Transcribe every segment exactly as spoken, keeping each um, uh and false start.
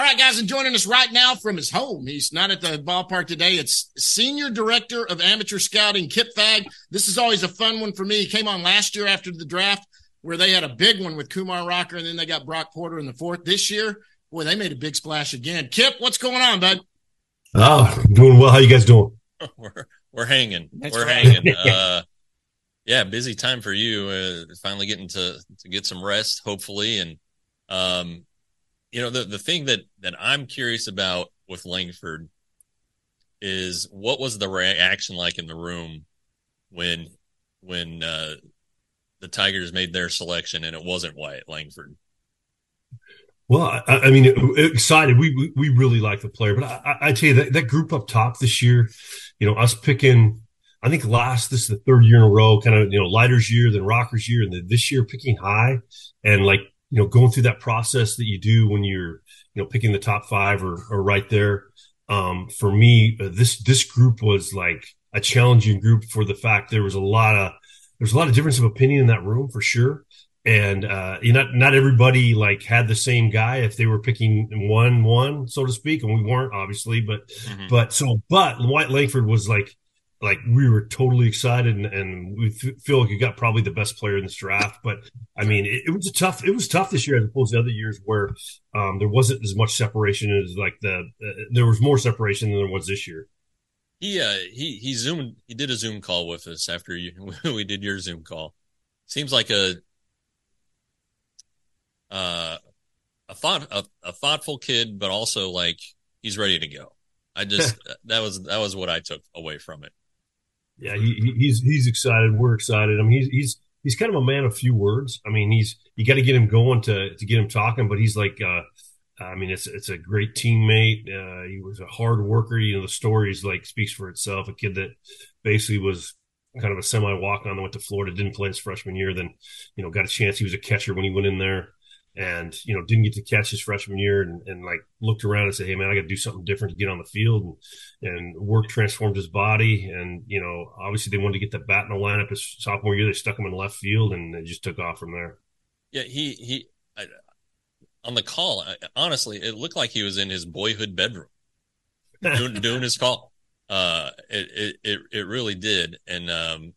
right, guys, and joining us right now from his home. He's not at the ballpark today. It's Senior Director of Amateur Scouting, Kip Fagg. This is always a fun one for me. He came on last year after the draft where they had a big one with Kumar Rocker, and then they got Brock Porter in the fourth. This year, boy, they made a big splash again. Kip, what's going on, bud? Oh, doing well. How you guys doing? We're we're hanging. That's we're right. hanging. Uh, yeah, busy time for you. Uh, finally getting to to get some rest, hopefully, and um, you know the the thing that that I'm curious about with Langford is what was the reaction like in the room when when uh, the Tigers made their selection and it wasn't Wyatt Langford. Well, I, I mean, excited. We, we we really like the player, but I, I tell you that that group up top this year, you know, us picking. I think last this is the third year in a row, kind of you know Leiter's year, then Rocker's year, and then this year picking high, and like you know going through that process that you do when you're you know picking the top five or or right there. Um, for me, uh, this this group was like a challenging group for the fact there was a lot of there's a lot of difference of opinion in that room for sure. And, uh, you know, not, not everybody like had the same guy if they were picking one, one, so to speak. And we weren't obviously, but, mm-hmm. but so, but Wyatt Langford was like, like we were totally excited and, and we th- feel like we got probably the best player in this draft. But I mean, it, it was a tough, it was tough this year as opposed to other years where, um, there wasn't as much separation as like the, uh, there was more separation than there was this year. He, uh, he, he zoomed, he did a Zoom call with us after you, we did your Zoom call. Seems like a, Uh, a thought, a, a thoughtful kid, but also like he's ready to go. I just that was that was what I took away from it. Yeah, he, he's he's excited. We're excited. I mean, he's he's he's kind of a man of few words. I mean, he's you got to get him going to to get him talking. But he's like, uh, I mean, it's it's a great teammate. Uh, he was a hard worker. You know, the stories like speaks for itself. A kid that basically was kind of a semi walk on that went to Florida, didn't play his freshman year, then you know got a chance. He was a catcher when he went in there. And, you know, didn't get to catch his freshman year and, and like looked around and said, hey, man, I got to do something different to get on the field. And, and work transformed his body. And, you know, obviously they wanted to get the bat in the lineup his sophomore year. They stuck him in left field and it just took off from there. Yeah, he, he, I, on the call, I, honestly, it looked like he was in his boyhood bedroom doing, doing his call. Uh, it, it, it, it really did. And, um,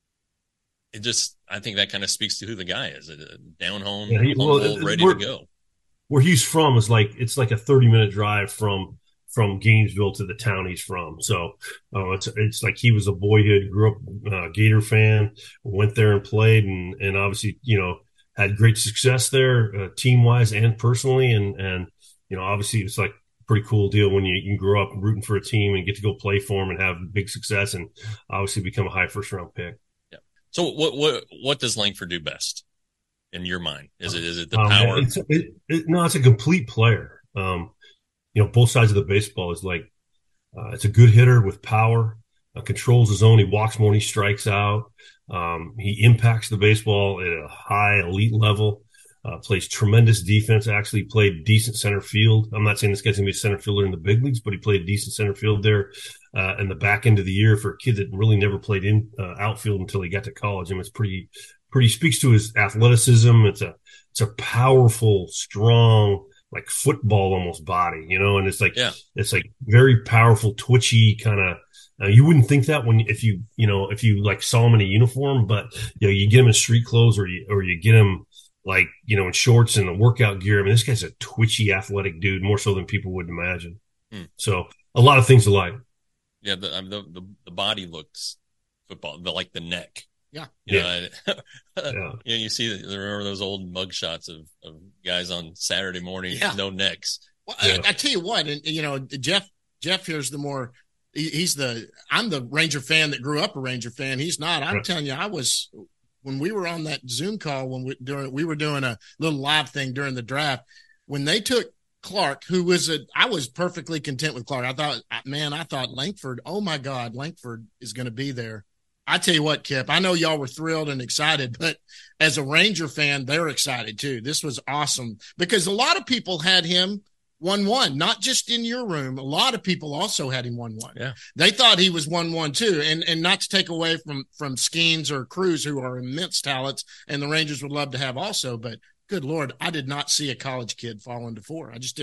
it just, I think that kind of speaks to who the guy is. Down home, yeah, he, humble, well, ready to go. Where he's from is like, it's like a thirty minute drive from, from Gainesville to the town he's from. So, uh, it's, it's like he was a boyhood, grew up uh, Gator fan, went there and played and, and obviously, you know, had great success there, uh, team wise and personally. And, and, you know, obviously it's like a pretty cool deal when you, you can grow up rooting for a team and get to go play for them and have big success and obviously become a high first round pick. So what what what does Langford do best in your mind? Is it is it the um, power? It's, it, it, no, it's a complete player. Um, you know, both sides of the baseball is like uh, it's a good hitter with power, uh, controls his own. He walks more than he strikes out. Um, he impacts the baseball at a high elite level. Uh, plays tremendous defense. Actually played decent center field. I'm not saying this guy's gonna be a center fielder in the big leagues, but he played decent center field there uh, in the back end of the year for a kid that really never played in uh, outfield until he got to college. I mean, it's pretty, pretty speaks to his athleticism. It's a, it's a powerful, strong, like football almost body, you know. And it's like, yeah. it's like very powerful, twitchy kind of. Uh, you wouldn't think that when if you, you know, if you like saw him in a uniform, but you know, you get him in street clothes or you or you get him. Like, you know, in shorts and a workout gear. I mean, this guy's a twitchy, athletic dude, more so than people would imagine. Hmm. So a lot of things alike. Yeah, the, the the the body looks football, the like the neck. Yeah, you yeah. Know, yeah. You know, you see, remember those old mug shots of, of guys on Saturday morning, yeah. no necks. Well, yeah. I, I tell you what, and you know, Jeff Jeff here's the more. He, he's the. I'm the Ranger fan that grew up a Ranger fan. He's not. I'm right. telling you, I was. When we were on that Zoom call, when we doing, we were doing a little live thing during the draft, when they took Clark, who was a, I was perfectly content with Clark. I thought, man, I thought Langford, oh my God, Langford is going to be there. I tell you what, Kip, I know y'all were thrilled and excited, but as a Ranger fan, they're excited too. This was awesome because a lot of people had him one one, not just in your room. A lot of people also had him one one. Yeah. They thought he was one one too. And and not to take away from from Skeens or Cruz, who are immense talents, and the Rangers would love to have also. But good Lord, I did not see a college kid fall into four. I just didn't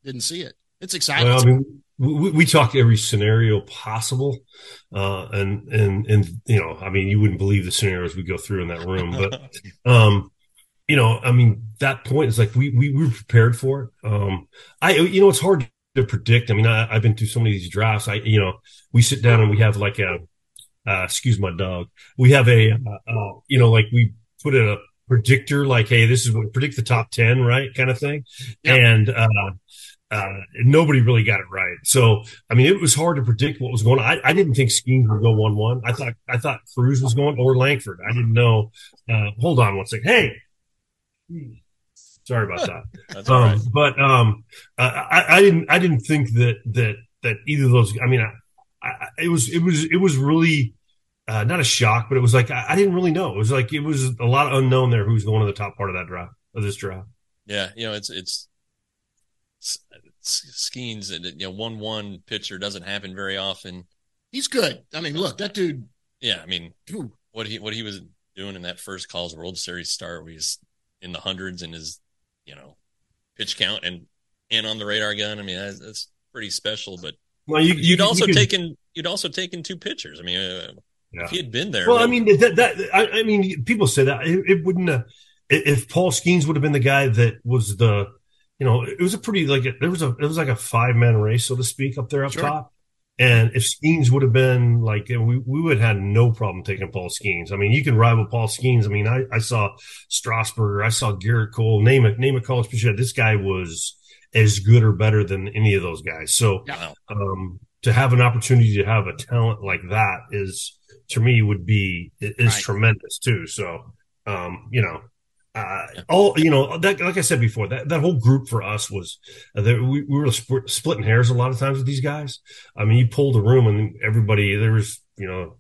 didn't see it. It's exciting. Well, I mean, we, we talk every scenario possible, uh, and and and you know, I mean, you wouldn't believe the scenarios we go through in that room, but um, you know, I mean, that point is like we we, we were prepared for it. Um, I you know, it's hard to predict. I mean, I, I've been through so many of these drafts. I you know, we sit down and we have like a uh, excuse my dog. We have a uh, uh, you know, like we put a predictor, like, hey, this is what predict the top ten, right, kind of thing, yeah. and. uh Uh, nobody really got it right. So, I mean, it was hard to predict what was going on. I, I didn't think Skeens would go one one. I thought, I thought Cruz was going or Langford. I didn't know. Uh, hold on one second. Hey, sorry about that. That's um, all right. But, um, uh, I, I didn't, I didn't think that, that, that either of those, I mean, I, I, it was, it was, it was really, uh, not a shock, but it was like, I, I didn't really know. It was like, it was a lot of unknown there who's going to the top part of that draft, of this draft. Yeah. You know, it's, it's, Skeens, you know, one one pitcher doesn't happen very often. He's good. I mean, look, that dude. Yeah, I mean, what he what he was doing in that first College World Series start, where he's in the hundreds in his, you know, pitch count and and on the radar gun. I mean, that's, that's pretty special. But well, you, you'd you, also you could, taken you'd also taken two pitchers. I mean, uh, yeah. if he had been there. Well, I mean, that, that I, I mean, people say that it, it wouldn't. Uh, if Paul Skeens would have been the guy that was the. You know, it was a pretty like there was a it was like a five man race, so to speak, up there up sure. top. And if Skeens would have been like we we would have had no problem taking Paul Skeens. I mean, you can rival Paul Skeens. I mean, I, I saw Strasburger, I saw Garrett Cole, name a name a college pitcher. This guy was as good or better than any of those guys. So yeah. um, to have an opportunity to have a talent like that is to me would be is right. tremendous too. So um, you know. Uh, all you know, that, like I said before, that, that whole group for us was uh, there, we, we were sp- splitting hairs a lot of times with these guys. I mean, you pulled the room and everybody there was, you know,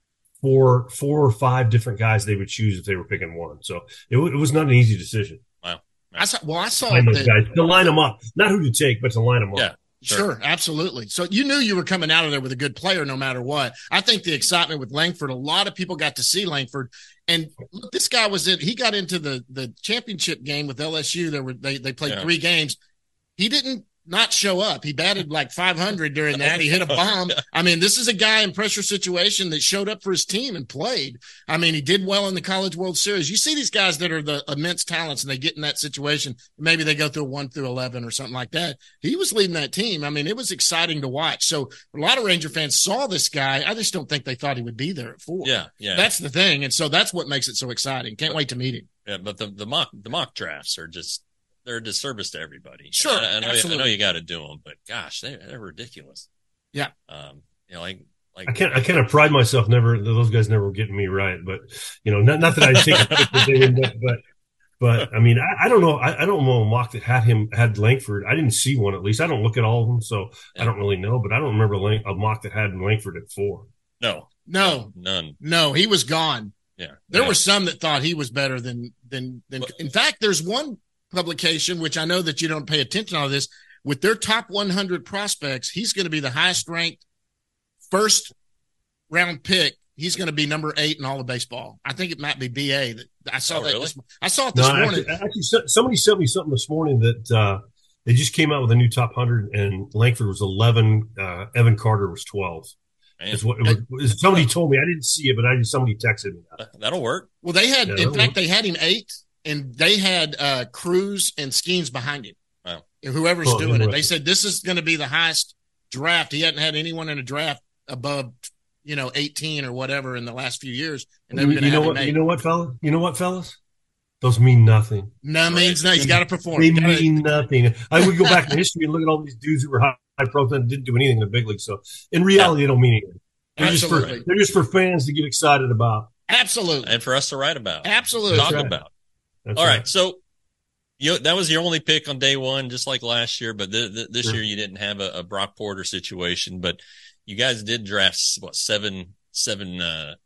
four four or five different guys they would choose if they were picking one. So it, it was not an easy decision. Wow. I saw, well, I saw line those guys to line them up, not who to take, but to line them up. Yeah. Sure. sure, absolutely. So you knew you were coming out of there with a good player no matter what. I think the excitement with Langford, a lot of people got to see Langford. And look, this guy was in, he got into the, the championship game with L S U. There were, they, they played yeah. three games. He didn't not show up. He batted like five hundred during that. He hit a bomb. I mean, this is a guy in pressure situation that showed up for his team and played. I mean, he did well in the College World Series. You see these guys that are the immense talents and they get in that situation. Maybe they go through a one through eleven or something like that. He was leading that team. I mean, it was exciting to watch. So a lot of Ranger fans saw this guy. I just don't think they thought he would be there at four. Yeah. Yeah. That's the thing. And so that's what makes it so exciting. Can't wait to meet him. Yeah. But the, the mock, the mock drafts are just, they're a disservice to everybody. Sure, I, I know, absolutely. I know you got to do them, but gosh, they, they're ridiculous. Yeah. Um, you know, like, like I can't, I kind of pride myself. Never, those guys never were getting me right, but you know, not, not that I take credit for doing that, but, but I mean, I, I don't know. I, I don't know a mock that had him, had Langford. I didn't see one, at least. I don't look at all of them, so yeah. I don't really know, but I don't remember a mock that had Langford at four. No, no, none. No, he was gone. Yeah. There yeah. were some that thought he was better than, than, than, but, in fact, there's one publication, which I know that you don't pay attention to this, with their top one hundred prospects, he's going to be the highest ranked first round pick. He's going to be number eight in all of baseball. I think it might be B A. That I saw oh, that. Really? This, I saw it this no, morning. Actually, actually, somebody sent me something this morning that uh, they just came out with a new top one hundred, and Langford was eleven. Uh, Evan Carter was twelve. Is what it was, somebody told me. I didn't see it, but I just somebody texted me that. That'll work. Well, they had, yeah, in fact, work. they had him eight. And they had uh, Cruz and Skeens behind him. Wow. And whoever's oh, doing it, they said this is going to be the highest draft. He hadn't had anyone in a draft above, you know, eighteen or whatever in the last few years. And they were you, you know what? You know what, fellas? You know what, fellas? Those mean nothing. No means no. He's got to perform. They gotta, mean nothing. I would go back in history and look at all these dudes who were high, high profile and didn't do anything in the big league. So in reality, yeah. they don't mean anything. They're Absolutely. just for they're just for fans to get excited about. Absolutely. And for us to write about. Absolutely. Talk right. about. That's All right. right. So you, that was your only pick on day one, just like last year. But th- th- this sure. year you didn't have a, a Brock Porter situation. But you guys did draft, what, seven, seven, uh,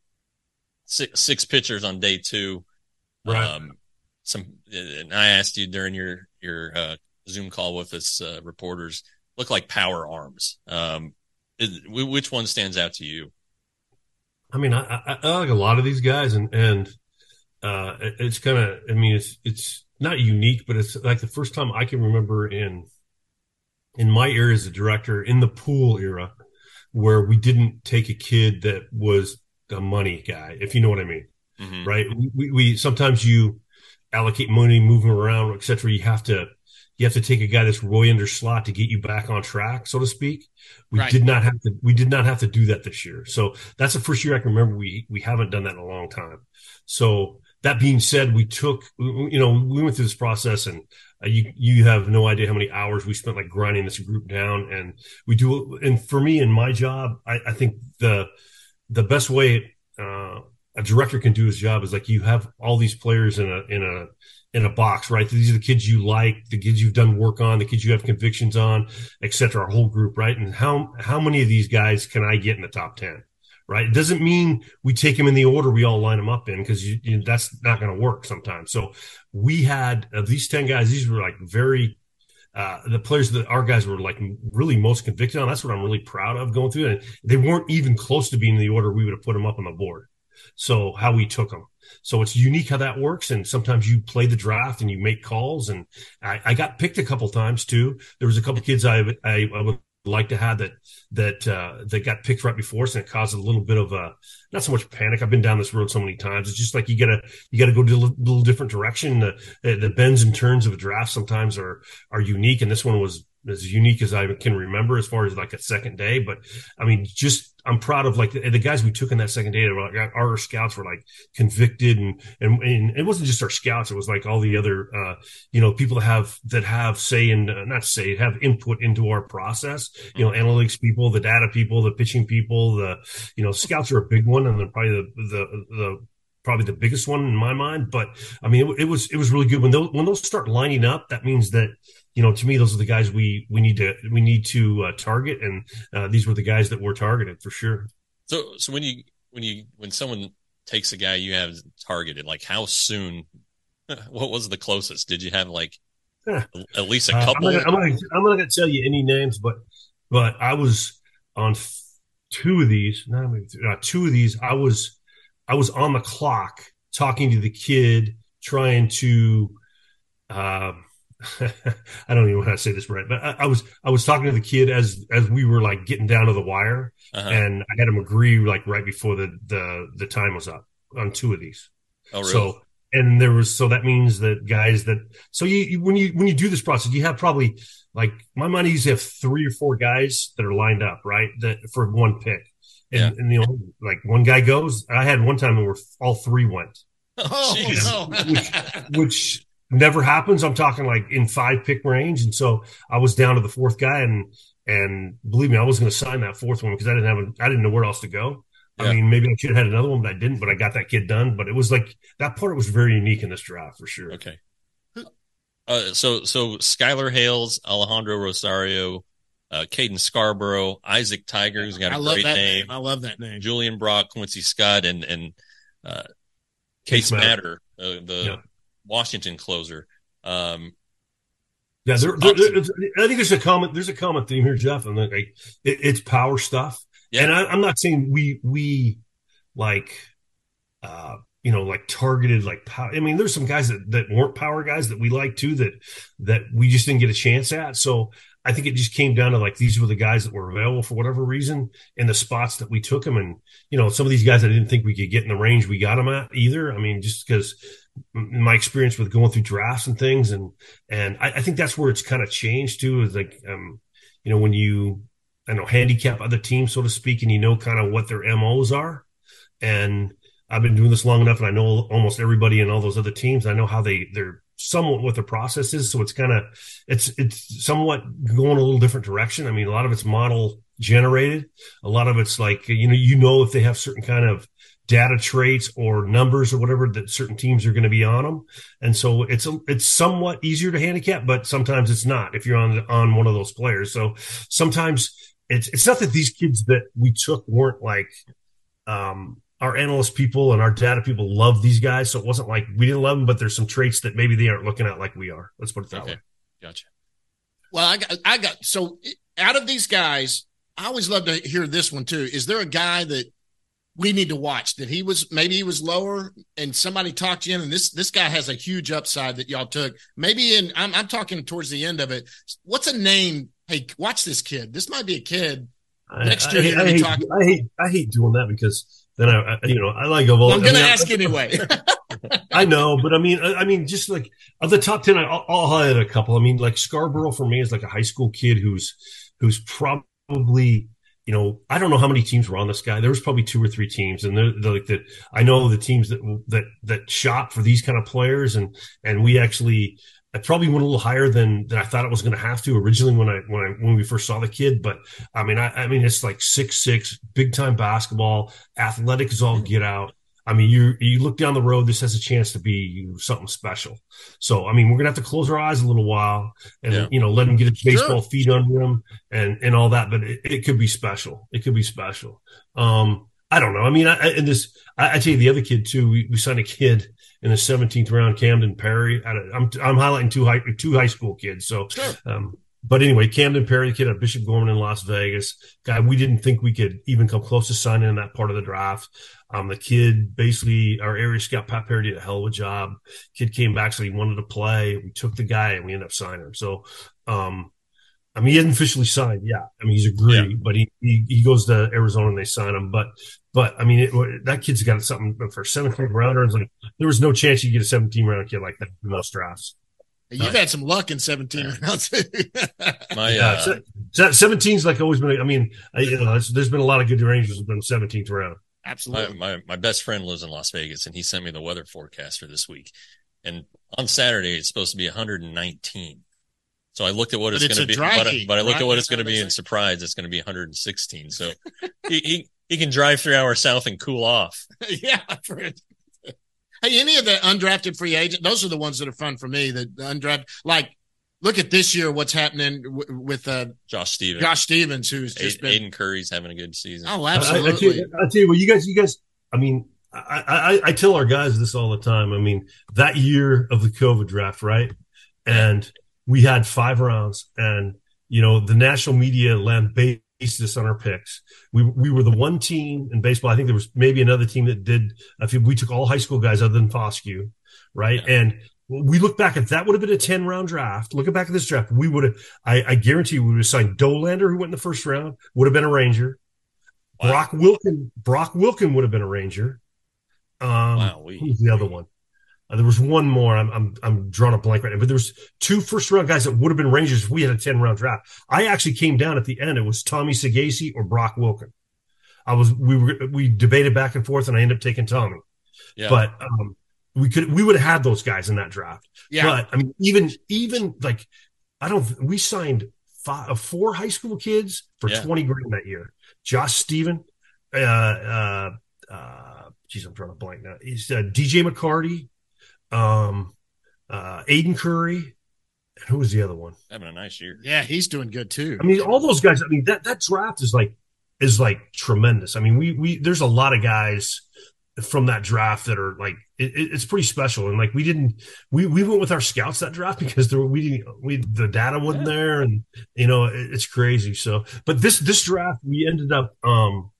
six, six pitchers on day two. Right. Um, some, and I asked you during your, your, uh, Zoom call with us, uh, reporters, look like power arms. Um, is, which one stands out to you? I mean, I, I, I like a lot of these guys, and, and, uh, it, it's kind of, I mean, it's, it's not unique, but it's like the first time I can remember in in my era as a director in the pool era where we didn't take a kid that was a money guy, if you know what I mean. Mm-hmm. Right. We, we, sometimes you allocate money, move them around, et cetera. You have to, you have to take a guy that's Roy under slot to get you back on track, so to speak. We right. did not have to, we did not have to do that this year. So that's the first year I can remember we, we haven't done that in a long time. So that being said, we took, you know, we went through this process, and uh, you, you have no idea how many hours we spent like grinding this group down. And we do, and for me in my job, I, I think the, the best way, uh, a director can do his job is like you have all these players in a in a in a box, right? These are the kids you like, the kids you've done work on, the kids you have convictions on, et cetera, our whole group, right? And how how many of these guys can I get in the top ten, right? It doesn't mean we take them in the order we all line them up in, because you, you, that's not going to work sometimes. So we had of these ten guys, these were like very uh, the players that our guys were like really most convicted on. That's what I'm really proud of going through. And they weren't even close to being in the order we would have put them up on the board. So how we took them. So it's unique how that works. And sometimes you play the draft and you make calls. And I, I got picked a couple times too. There was a couple kids I, I, I would like to have that, that, uh, that got picked right before us, and it caused a little bit of a, not so much panic. I've been down this road so many times. It's just like, you gotta, you gotta go to a little different direction. The, the bends and turns of a draft sometimes are, are unique. And this one was as unique as I can remember as far as like a second day. But I mean, just, I'm proud of like the, the guys we took in that second day. Like, our scouts were like convicted, and, and, and it wasn't just our scouts. It was like all the other, uh, you know, people that have, that have say and uh, not say, have input into our process, you know, analytics people, the data people, the pitching people, the, you know, scouts are a big one. And then probably the, the, the, probably the biggest one in my mind. But I mean, it, it was, it was really good when those, when those start lining up. That means that, you know, to me, those are the guys we, we need to, we need to uh, target. And uh, these were the guys that were targeted for sure. So, so when you, when you, when someone takes a guy you have targeted, like how soon, what was the closest? Did you have like yeah. at least a couple? Uh, I'm not gonna, I'm not going to tell you any names, but, but I was on two of these, not maybe three, uh, two of these. I was, I was on the clock talking to the kid, trying to, uh, I don't even know how to say this right, but I, I was I was talking to the kid as as we were like getting down to the wire, uh-huh. and I had him agree like right before the the the time was up on two of these. Oh, really? So and there was so that means that guys that so you, you when you when you do this process, you have probably like my money used to have three or four guys that are lined up, right, that for one pick, and, yeah. and you know like one guy goes. I had one time where all three went. Oh, no. which, which never happens. I'm talking like in five pick range. And so I was down to the fourth guy, and, and believe me, I was going to sign that fourth one because I didn't have, a, I didn't know where else to go. Yeah. I mean, maybe I should have had another one, but I didn't, but I got that kid done. But it was like, that part was very unique in this draft for sure. Okay. Uh, so, so Skylar Hales, Alejandro Rosario, uh, Caden Scarborough, Isaac Tiger, who's got a I great name. name. I love that name. Julian Brock, Quincy Scott, and, and, uh, Case Matter, uh, the yeah. Washington closer. Um, yeah, there, there, there, I think there's a common there's a common theme here, Jeff, and like it, it's power stuff. Yeah. And I, I'm not saying we we like uh, you know like targeted like power. I mean, there's some guys that, that weren't power guys that we like too that that we just didn't get a chance at. So I think it just came down to like these were the guys that were available for whatever reason in the spots that we took them. And, you know, some of these guys I didn't think we could get in the range we got them at either. I mean, just because my experience with going through drafts and things. And, and I, I think that's where it's kind of changed too, is like, um, you know, when you, I know, handicap other teams, so to speak, and you know kind of what their M Os are. And I've been doing this long enough, and I know almost everybody in all those other teams. I know how they, they're, somewhat what the process is. So it's kind of, it's, it's somewhat going a little different direction. I mean, a lot of it's model generated. A lot of it's like, you know, you know, if they have certain kind of data traits or numbers or whatever that certain teams are going to be on them. And so it's, a, it's somewhat easier to handicap, but sometimes it's not if you're on, on one of those players. So sometimes it's, it's not that these kids that we took weren't like, um, our analyst people and our data people love these guys. So it wasn't like we didn't love them, but there's some traits that maybe they aren't looking at like we are. Let's put it that okay. way. Gotcha. Well, I got, I got, so out of these guys, I always love to hear this one too. Is there a guy that we need to watch that he was, maybe he was lower and somebody talked you in, and this, this guy has a huge upside that y'all took maybe in, I'm, I'm talking towards the end of it. What's a name hey, watch this kid. This might be a kid. I, Next year, I, you're I, going to be hate, talking. I hate I hate doing that because then I, I you know I like of all. Well, I'm going to I mean, ask I, anyway. I know, but I mean, I, I mean, just like of the top ten, I, I'll, I'll highlight a couple. I mean, like Scarborough for me is like a high school kid who's who's probably, you know, I don't know how many teams were on this guy. There was probably two or three teams, and they're, they're like that. I know the teams that that that shop for these kind of players, and and we actually. I probably went a little higher than, than I thought it was going to have to originally when I when I when we first saw the kid. But I mean, I, I mean, it's like six six, big time basketball, athletic as all get out. I mean, you you look down the road, this has a chance to be something special. So, I mean, we're gonna have to close our eyes a little while and yeah. you know let him get his baseball sure. feet under him and and all that. But it, it could be special. It could be special. Um, I don't know. I mean, I, and this, I, I tell you, the other kid too. We, we signed a kid in the seventeenth round, Camden Perry. I, I'm I'm highlighting two high two high school kids. So, sure. um, but anyway, Camden Perry, the kid at Bishop Gorman in Las Vegas, guy we didn't think we could even come close to signing in that part of the draft. Um, the kid basically, our area scout Pat Perry did a hell of a job. Kid came back, so he wanted to play. We took the guy and we ended up signing him. So, um, I mean, he hasn't officially signed. Yeah. I mean, he's agreed, yeah. but he, he, he goes to Arizona and they sign him. But, but I mean, it, that kid's got something for seventeen rounders. Like there was no chance you get a seventeen round kid like that in most drafts. You've right. had some luck in seventeen rounds. My, uh, yeah, so, seventeen's like always been, I mean, I, you know, there's been a lot of good Rangers have been seventeenth round. Absolutely. My, my, my best friend lives in Las Vegas and he sent me the weather forecast for this week. And on Saturday, it's supposed to be one hundred nineteen. So I looked at what but it's, it's going to be, but, I, but I looked right? at what it's going to be in Surprise. It's going to be one hundred sixteen. So he, he, he can drive three hours south and cool off. yeah. Hey, any of the undrafted free agents, those are the ones that are fun for me. The undrafted, like, look at this year, what's happening w- with uh, Josh Stevens. Josh Stevens, who's just Aiden, been. Aiden Curry's having a good season. Oh, absolutely. I, I, tell you, I tell you what, you guys, you guys, I mean, I, I, I tell our guys this all the time. I mean, that year of the COVID draft, right? And we had five rounds, and, you know, the national media lambasted us on our picks. We we were the one team in baseball. I think there was maybe another team that did. I think we took all high school guys other than Foscue, right? Yeah. And we look back at that would have been a ten round draft. Looking back at this draft, we would have. I, I guarantee you we would have signed Dolander, who went in the first round, would have been a Ranger. Wow. Brock Wilkin, Brock Wilkin would have been a Ranger. Um, wow, we, who's the other one? Uh, there was one more. I'm I'm I'm drawing a blank right now, but there was two first round guys that would have been Rangers if we had a ten round draft. I actually came down at the end. It was Tommy Sagasi or Brock Wilkin. I was we were we debated back and forth, and I ended up taking Tommy. Yeah. But um, we could we would have had those guys in that draft. Yeah. But I mean, even even like I don't. We signed five, four high school kids for yeah. twenty grand that year. Josh Steven, uh, uh, uh, geez, I'm drawing a blank now. He's uh, D J McCarty. Um, uh, Aiden Curry, and who was the other one? Having a nice year. Yeah, he's doing good too. I mean, all those guys. I mean, that that draft is like is like tremendous. I mean, we we there's a lot of guys from that draft that are like it, it's pretty special. And like we didn't we we went with our scouts that draft because there we didn't we the data wasn't yeah. there, and you know it, it's crazy. So, but this this draft we ended up um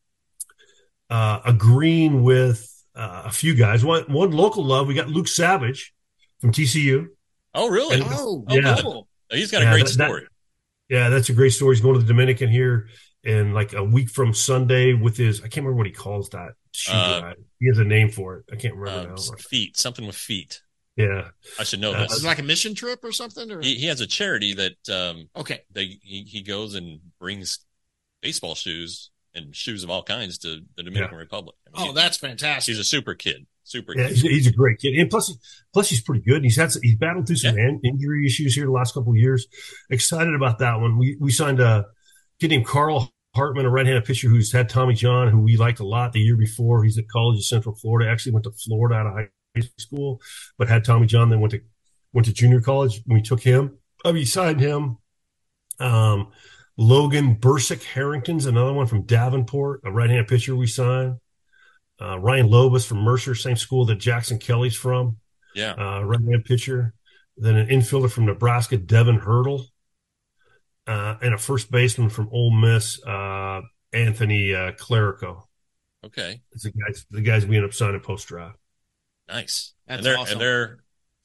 uh agreeing with. Uh, a few guys. One one local love. We got Luke Savage from T C U. Oh, really? And, oh, yeah. oh, cool. He's got a yeah, great that, story. That, yeah, that's a great story. He's going to the Dominican here in like a week from Sunday with his. I can't remember what he calls that. Uh, he has a name for it. I can't remember uh, now. Feet, something with feet. Yeah, I should know uh, this. Is it like a mission trip or something? Or? He, he has a charity that. Um, okay. They he, he goes and brings baseball shoes and shoes of all kinds to the Dominican yeah. Republic. I mean, oh, he, that's fantastic. He's a super kid. Super. Yeah, he's, he's a great kid, and plus, plus he's pretty good. He's had he's battled through some yeah. injury issues here the last couple of years. Excited about that one. We we signed a kid named Carl Hartman, a right-handed pitcher who's had Tommy John, who we liked a lot the year before. He's at College of Central Florida. Actually went to Florida out of high school, but had Tommy John. Then went to went to junior college. We took him. Oh, we signed him. Um, Logan Bursick Harrington's another one from Davenport, a right-handed pitcher we signed. Uh, Ryan Lobus from Mercer, same school that Jackson Kelly's from. Yeah. Uh, right-hand pitcher. Then an infielder from Nebraska, Devin Hurdle. Uh, and a first baseman from Ole Miss, uh, Anthony uh, Clerico. Okay. It's the guys, the guys we end up signing post-draft. Nice. That's and they're, awesome. And they're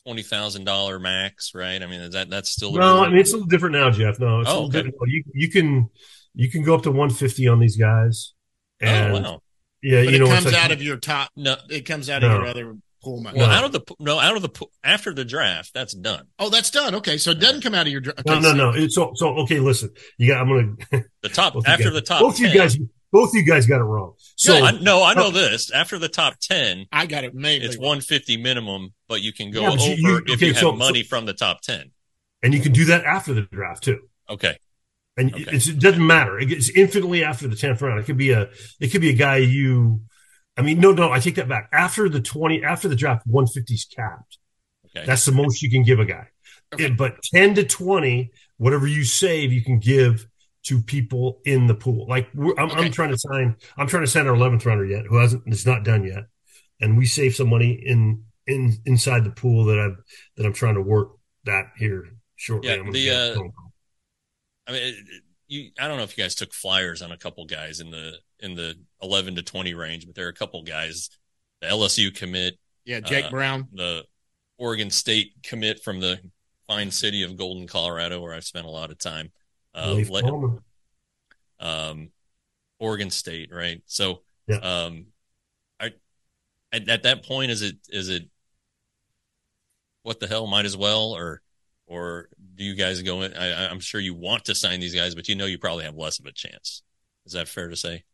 twenty thousand dollar max, right? I mean, is that that's still the no. rule? I mean, it's a little different now, Jeff. No, it's Oh, a little okay. different. You you can you can go up to one fifty on these guys, and Oh, wow. yeah, But you it know, comes it's like, out of your top. No, It comes out No. of your other pool money. well, No. out of the no, out of the after the draft, that's done. Oh, that's done. Okay, so it doesn't come out of your. Okay, no, no, so- no. It's so so. Okay, listen. You got. I'm gonna. The top both you after guys- the top Both ten. you guys. Both you guys got it wrong. So I, no, I know this. After the top ten, I got it mainly. it's one fifty minimum, but you can go Yeah, but over you- you- if okay, you have so- money from the top ten. and you can do that after the draft too. Okay. And Okay. it's, it doesn't matter. It's infinitely after the tenth round. It could be a, it could be a guy you, I mean, no, no, I take that back. After the twenty, after the draft, one fifty is capped. Okay. That's the most you can give a guy. Okay. It- but ten to twenty, whatever you save, you can give to people in the pool. Like we're, I'm, Okay. I'm trying to sign, I'm trying to sign our eleventh rounder yet, who hasn't, it's not done yet. And we save some money in, in, inside the pool that I've, that I'm trying to work that here shortly. Yeah, I'm gonna the, get a uh, phone call. I mean, it, it- you. I don't know if you guys took flyers on a couple guys in the in the eleven to twenty range, but there are a couple guys. The L S U commit, yeah, Jake uh, Brown. the Oregon State commit from the fine city of Golden, Colorado, where I've spent a lot of time. Uh, Leif let- Palmer. um, Oregon State, right? So, Yeah. um, I at, at that point, is it is it what the hell? Might as well, or or do you guys go in? I, I'm sure you want to sign these guys, but you know you probably have less of a chance. Is that fair to say?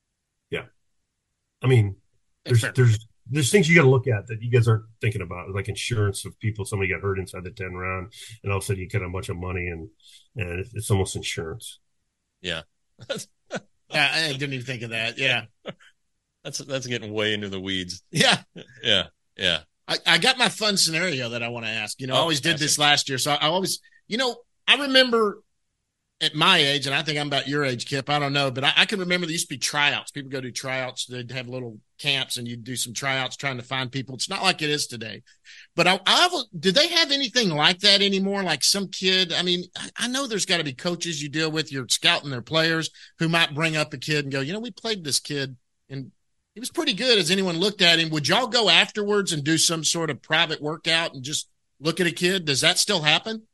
I mean, there's Fair. there's there's things you got to look at that you guys aren't thinking about, like insurance of people. Somebody got hurt inside the ten round, and all of a sudden you get a bunch of money, and and it's, it's almost insurance. Yeah, Yeah, I didn't even think of that. Yeah, that's that's getting way into the weeds. yeah. Yeah, yeah. I, I got my fun scenario that I want to ask. You know, I Oh, always did ask this it. last year, so I always, you know, I remember at my age, and I think I'm about your age, Kip. I don't know, but I, I can remember there used to be tryouts. People go do tryouts. They'd have little camps, and you'd do some tryouts trying to find people. It's not like it is today. But I, I do they have anything like that anymore? Like some kid. I mean, I, I know there's got to be coaches you deal with. You're scouting their players who might bring up a kid and go, you know, we played this kid, and he was pretty good. Has anyone looked at him? Would y'all go afterwards and do some sort of private workout and just look at a kid? Does that still happen?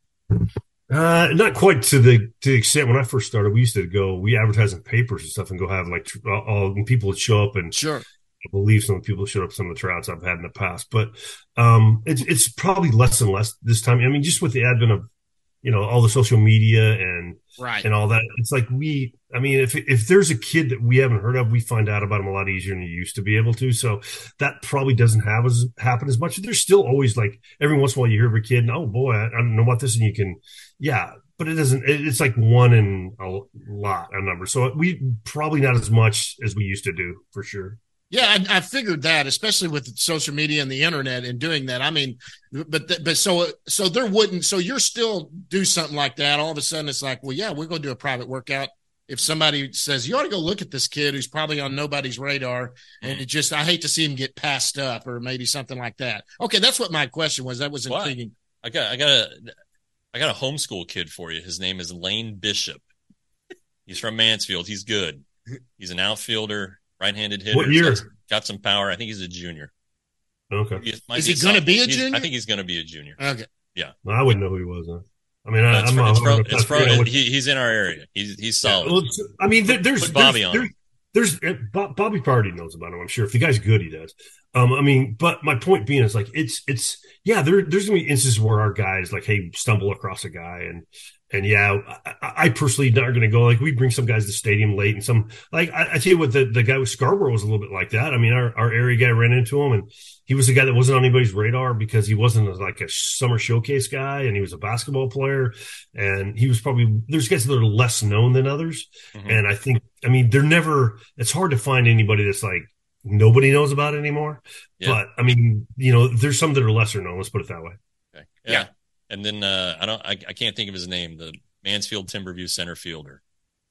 Uh, not quite to the to the extent when I first started. We used to go, we advertise in papers and stuff, and go have like tr- all and people would show up, and Sure. I believe some of the people showed up some of the tryouts I've had in the past. But um, it's it's probably less and less this time. I mean, just with the advent of you know all the social media and Right. and all that. It's like we, I mean, if if there's a kid that we haven't heard of, we find out about him a lot easier than you used to be able to. So that probably doesn't have as happen as much. There's still always like every once in a while you hear of a kid, and oh boy, I, I don't know about this, and you can, yeah, but it doesn't. It, it's like one in a lot, a number. So we probably not as much as we used to do for sure. Yeah, I, I figured that, especially with social media and the internet and doing that. I mean, but th- but so so there wouldn't. So you're still do something like that. All of a sudden, it's like, well, yeah, we're going to do a private workout. If somebody says you ought to go look at this kid who's probably on nobody's radar, and it just I hate to see him get passed up or maybe something like that. Okay, that's what my question was. That was Why? intriguing. I got I got a I got a homeschool kid for you. His name is Lane Bishop. He's from Mansfield. He's good. He's an outfielder, right-handed hitter. What year? Got, got some power. I think he's a junior. Okay, He might Is he a gonna be a sophomore. He's- junior? I think he's going to be a junior. Okay, well, I wouldn't know who he was. Huh? I mean, I, It's I'm from, not. it's from, I'm it's not from familiar with- he, he's in our area. He's he's solid. Well, it's- I mean, there, there's Put Bobby there's, on there's, him. there's uh, Bob, Bobby Party knows about him. I'm sure if the guy's good, he does. Um, I mean, but my point being is like it's it's yeah. There there's gonna be instances where our guys like hey stumble across a guy and and yeah, I, I personally not gonna go like we bring some guys to the stadium late and some like I, I tell you what the the guy with Scarborough was a little bit like that. I mean, our our area guy ran into him and he was a guy that wasn't on anybody's radar because he wasn't a, like a summer showcase guy and he was a basketball player and he was probably there's guys that are less known than others. Mhm. And I think, I mean, they're never, it's hard to find anybody that's like, nobody knows about it anymore. Yeah. But I mean, you know, there's some that are lesser known. Let's put it that way. Okay. Yeah. Yeah. And then uh, I don't I, I can't think of his name. The Mansfield Timberview center fielder.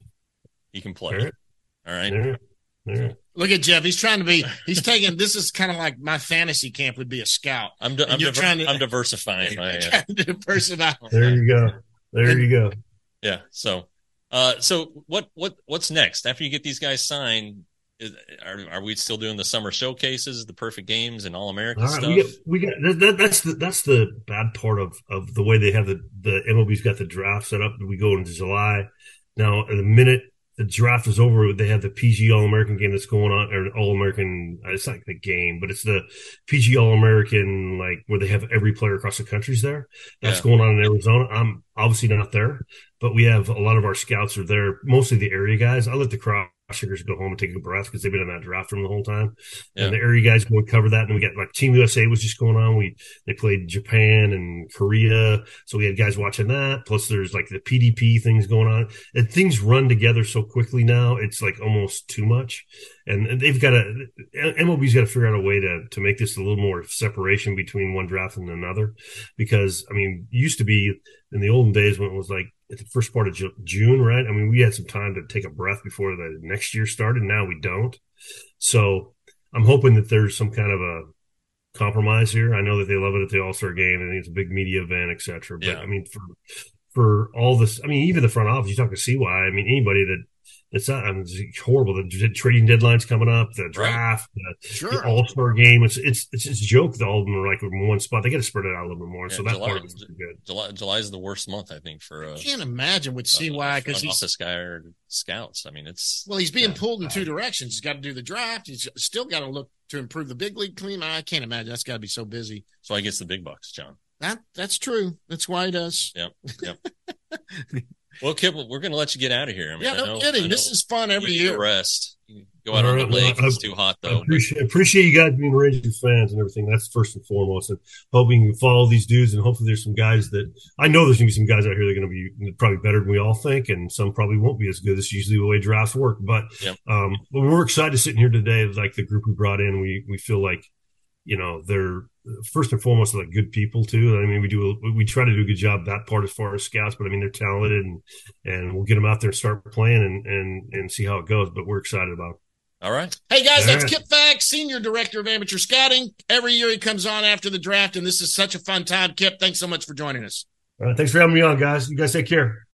He can play. All right. All right. There, there. look at Jeff. He's trying to be. He's taking. This is kind of like my fantasy camp would be a scout. I'm di- And I'm, you're diver- trying to- I'm diversifying. My, uh, Trying to diversify. There you go. There And- you go. yeah. So uh so what what what's next after you get these guys signed? is, are are we still doing the summer showcases, the perfect games, and all American All right, stuff? we get we get that, that, that's the that's the bad part of of the way they have the the M L B's got the draft set up. We go into July now. The minute the draft is over, they have the P G All American game that's going on, or All American. It's not the game, but it's the P G All American, like where they have every player across the country's there. That's Yeah. going on in Arizona. I'm obviously not there, but we have a lot of our scouts are there, mostly the area guys. I let the cross checkers go home and take a breath because they've been in that draft room the whole time. Yeah. And the area guys go and cover that. And we got like Team U S A was just going on. We they played Japan and Korea, so we had guys watching that. Plus, there's like the P D P things going on, and things run together so quickly now. It's like almost too much. And they've got to M L B's got to figure out a way to to make this a little more separation between one draft and another, because I mean, it used to be in the olden days when it was like at the first part of Ju- June, right? I mean, we had some time to take a breath before the next year started. Now we don't. So I'm hoping that there's some kind of a compromise here. I know that they love it at the All-Star game. I think it's a big media event, et cetera. But Yeah. I mean, for for all this, I mean, even the front office, you talk to C Y, I mean, anybody that it's not, I mean, it's horrible. The trading deadline's coming up, the draft, right. the, sure. the All-Star game. It's it's it's just a joke that all of them are like in one spot. They got to spread it out a little bit more. Yeah, so that July, part of it's good. July July is the worst month, I think, for uh, I can't imagine with C Y because uh, he's office guy or scouts. I mean, it's well, he's being yeah. pulled in two directions. He's got to do the draft. He's still got to look to improve the big league team. I can't imagine that's got to be so busy. So I guess the big bucks, John. That that's true. That's why he does. Yep. Yep. Well, Kip, we're going to let you get out of here. I mean, Yeah, I no know, kidding. I know This is fun every you need to year. Rest. You go out All on right, the lake. well, I- It's too hot I though. appreciate, appreciate you guys being Rangers fans and everything. That's first and foremost. And hoping you follow these dudes, and hopefully there's some guys that I know there's going to be some guys out here that are going to be probably better than we all think, and some probably won't be as good. This is usually the way drafts work. But, Yep. um, but we're excited sitting here today. Like the group we brought in, we we feel like, you know, they're first and foremost like good people too. I mean, we do we try to do a good job that part as far as scouts, but I mean they're talented, and and we'll get them out there and start playing and and and see how it goes. But we're excited about it. All right. Hey guys, All that's right. Kip Fagg, Senior Director of Amateur Scouting. Every year he comes on after the draft, and this is such a fun time. Kip, thanks so much for joining us. All right, thanks for having me on, guys. You guys take care.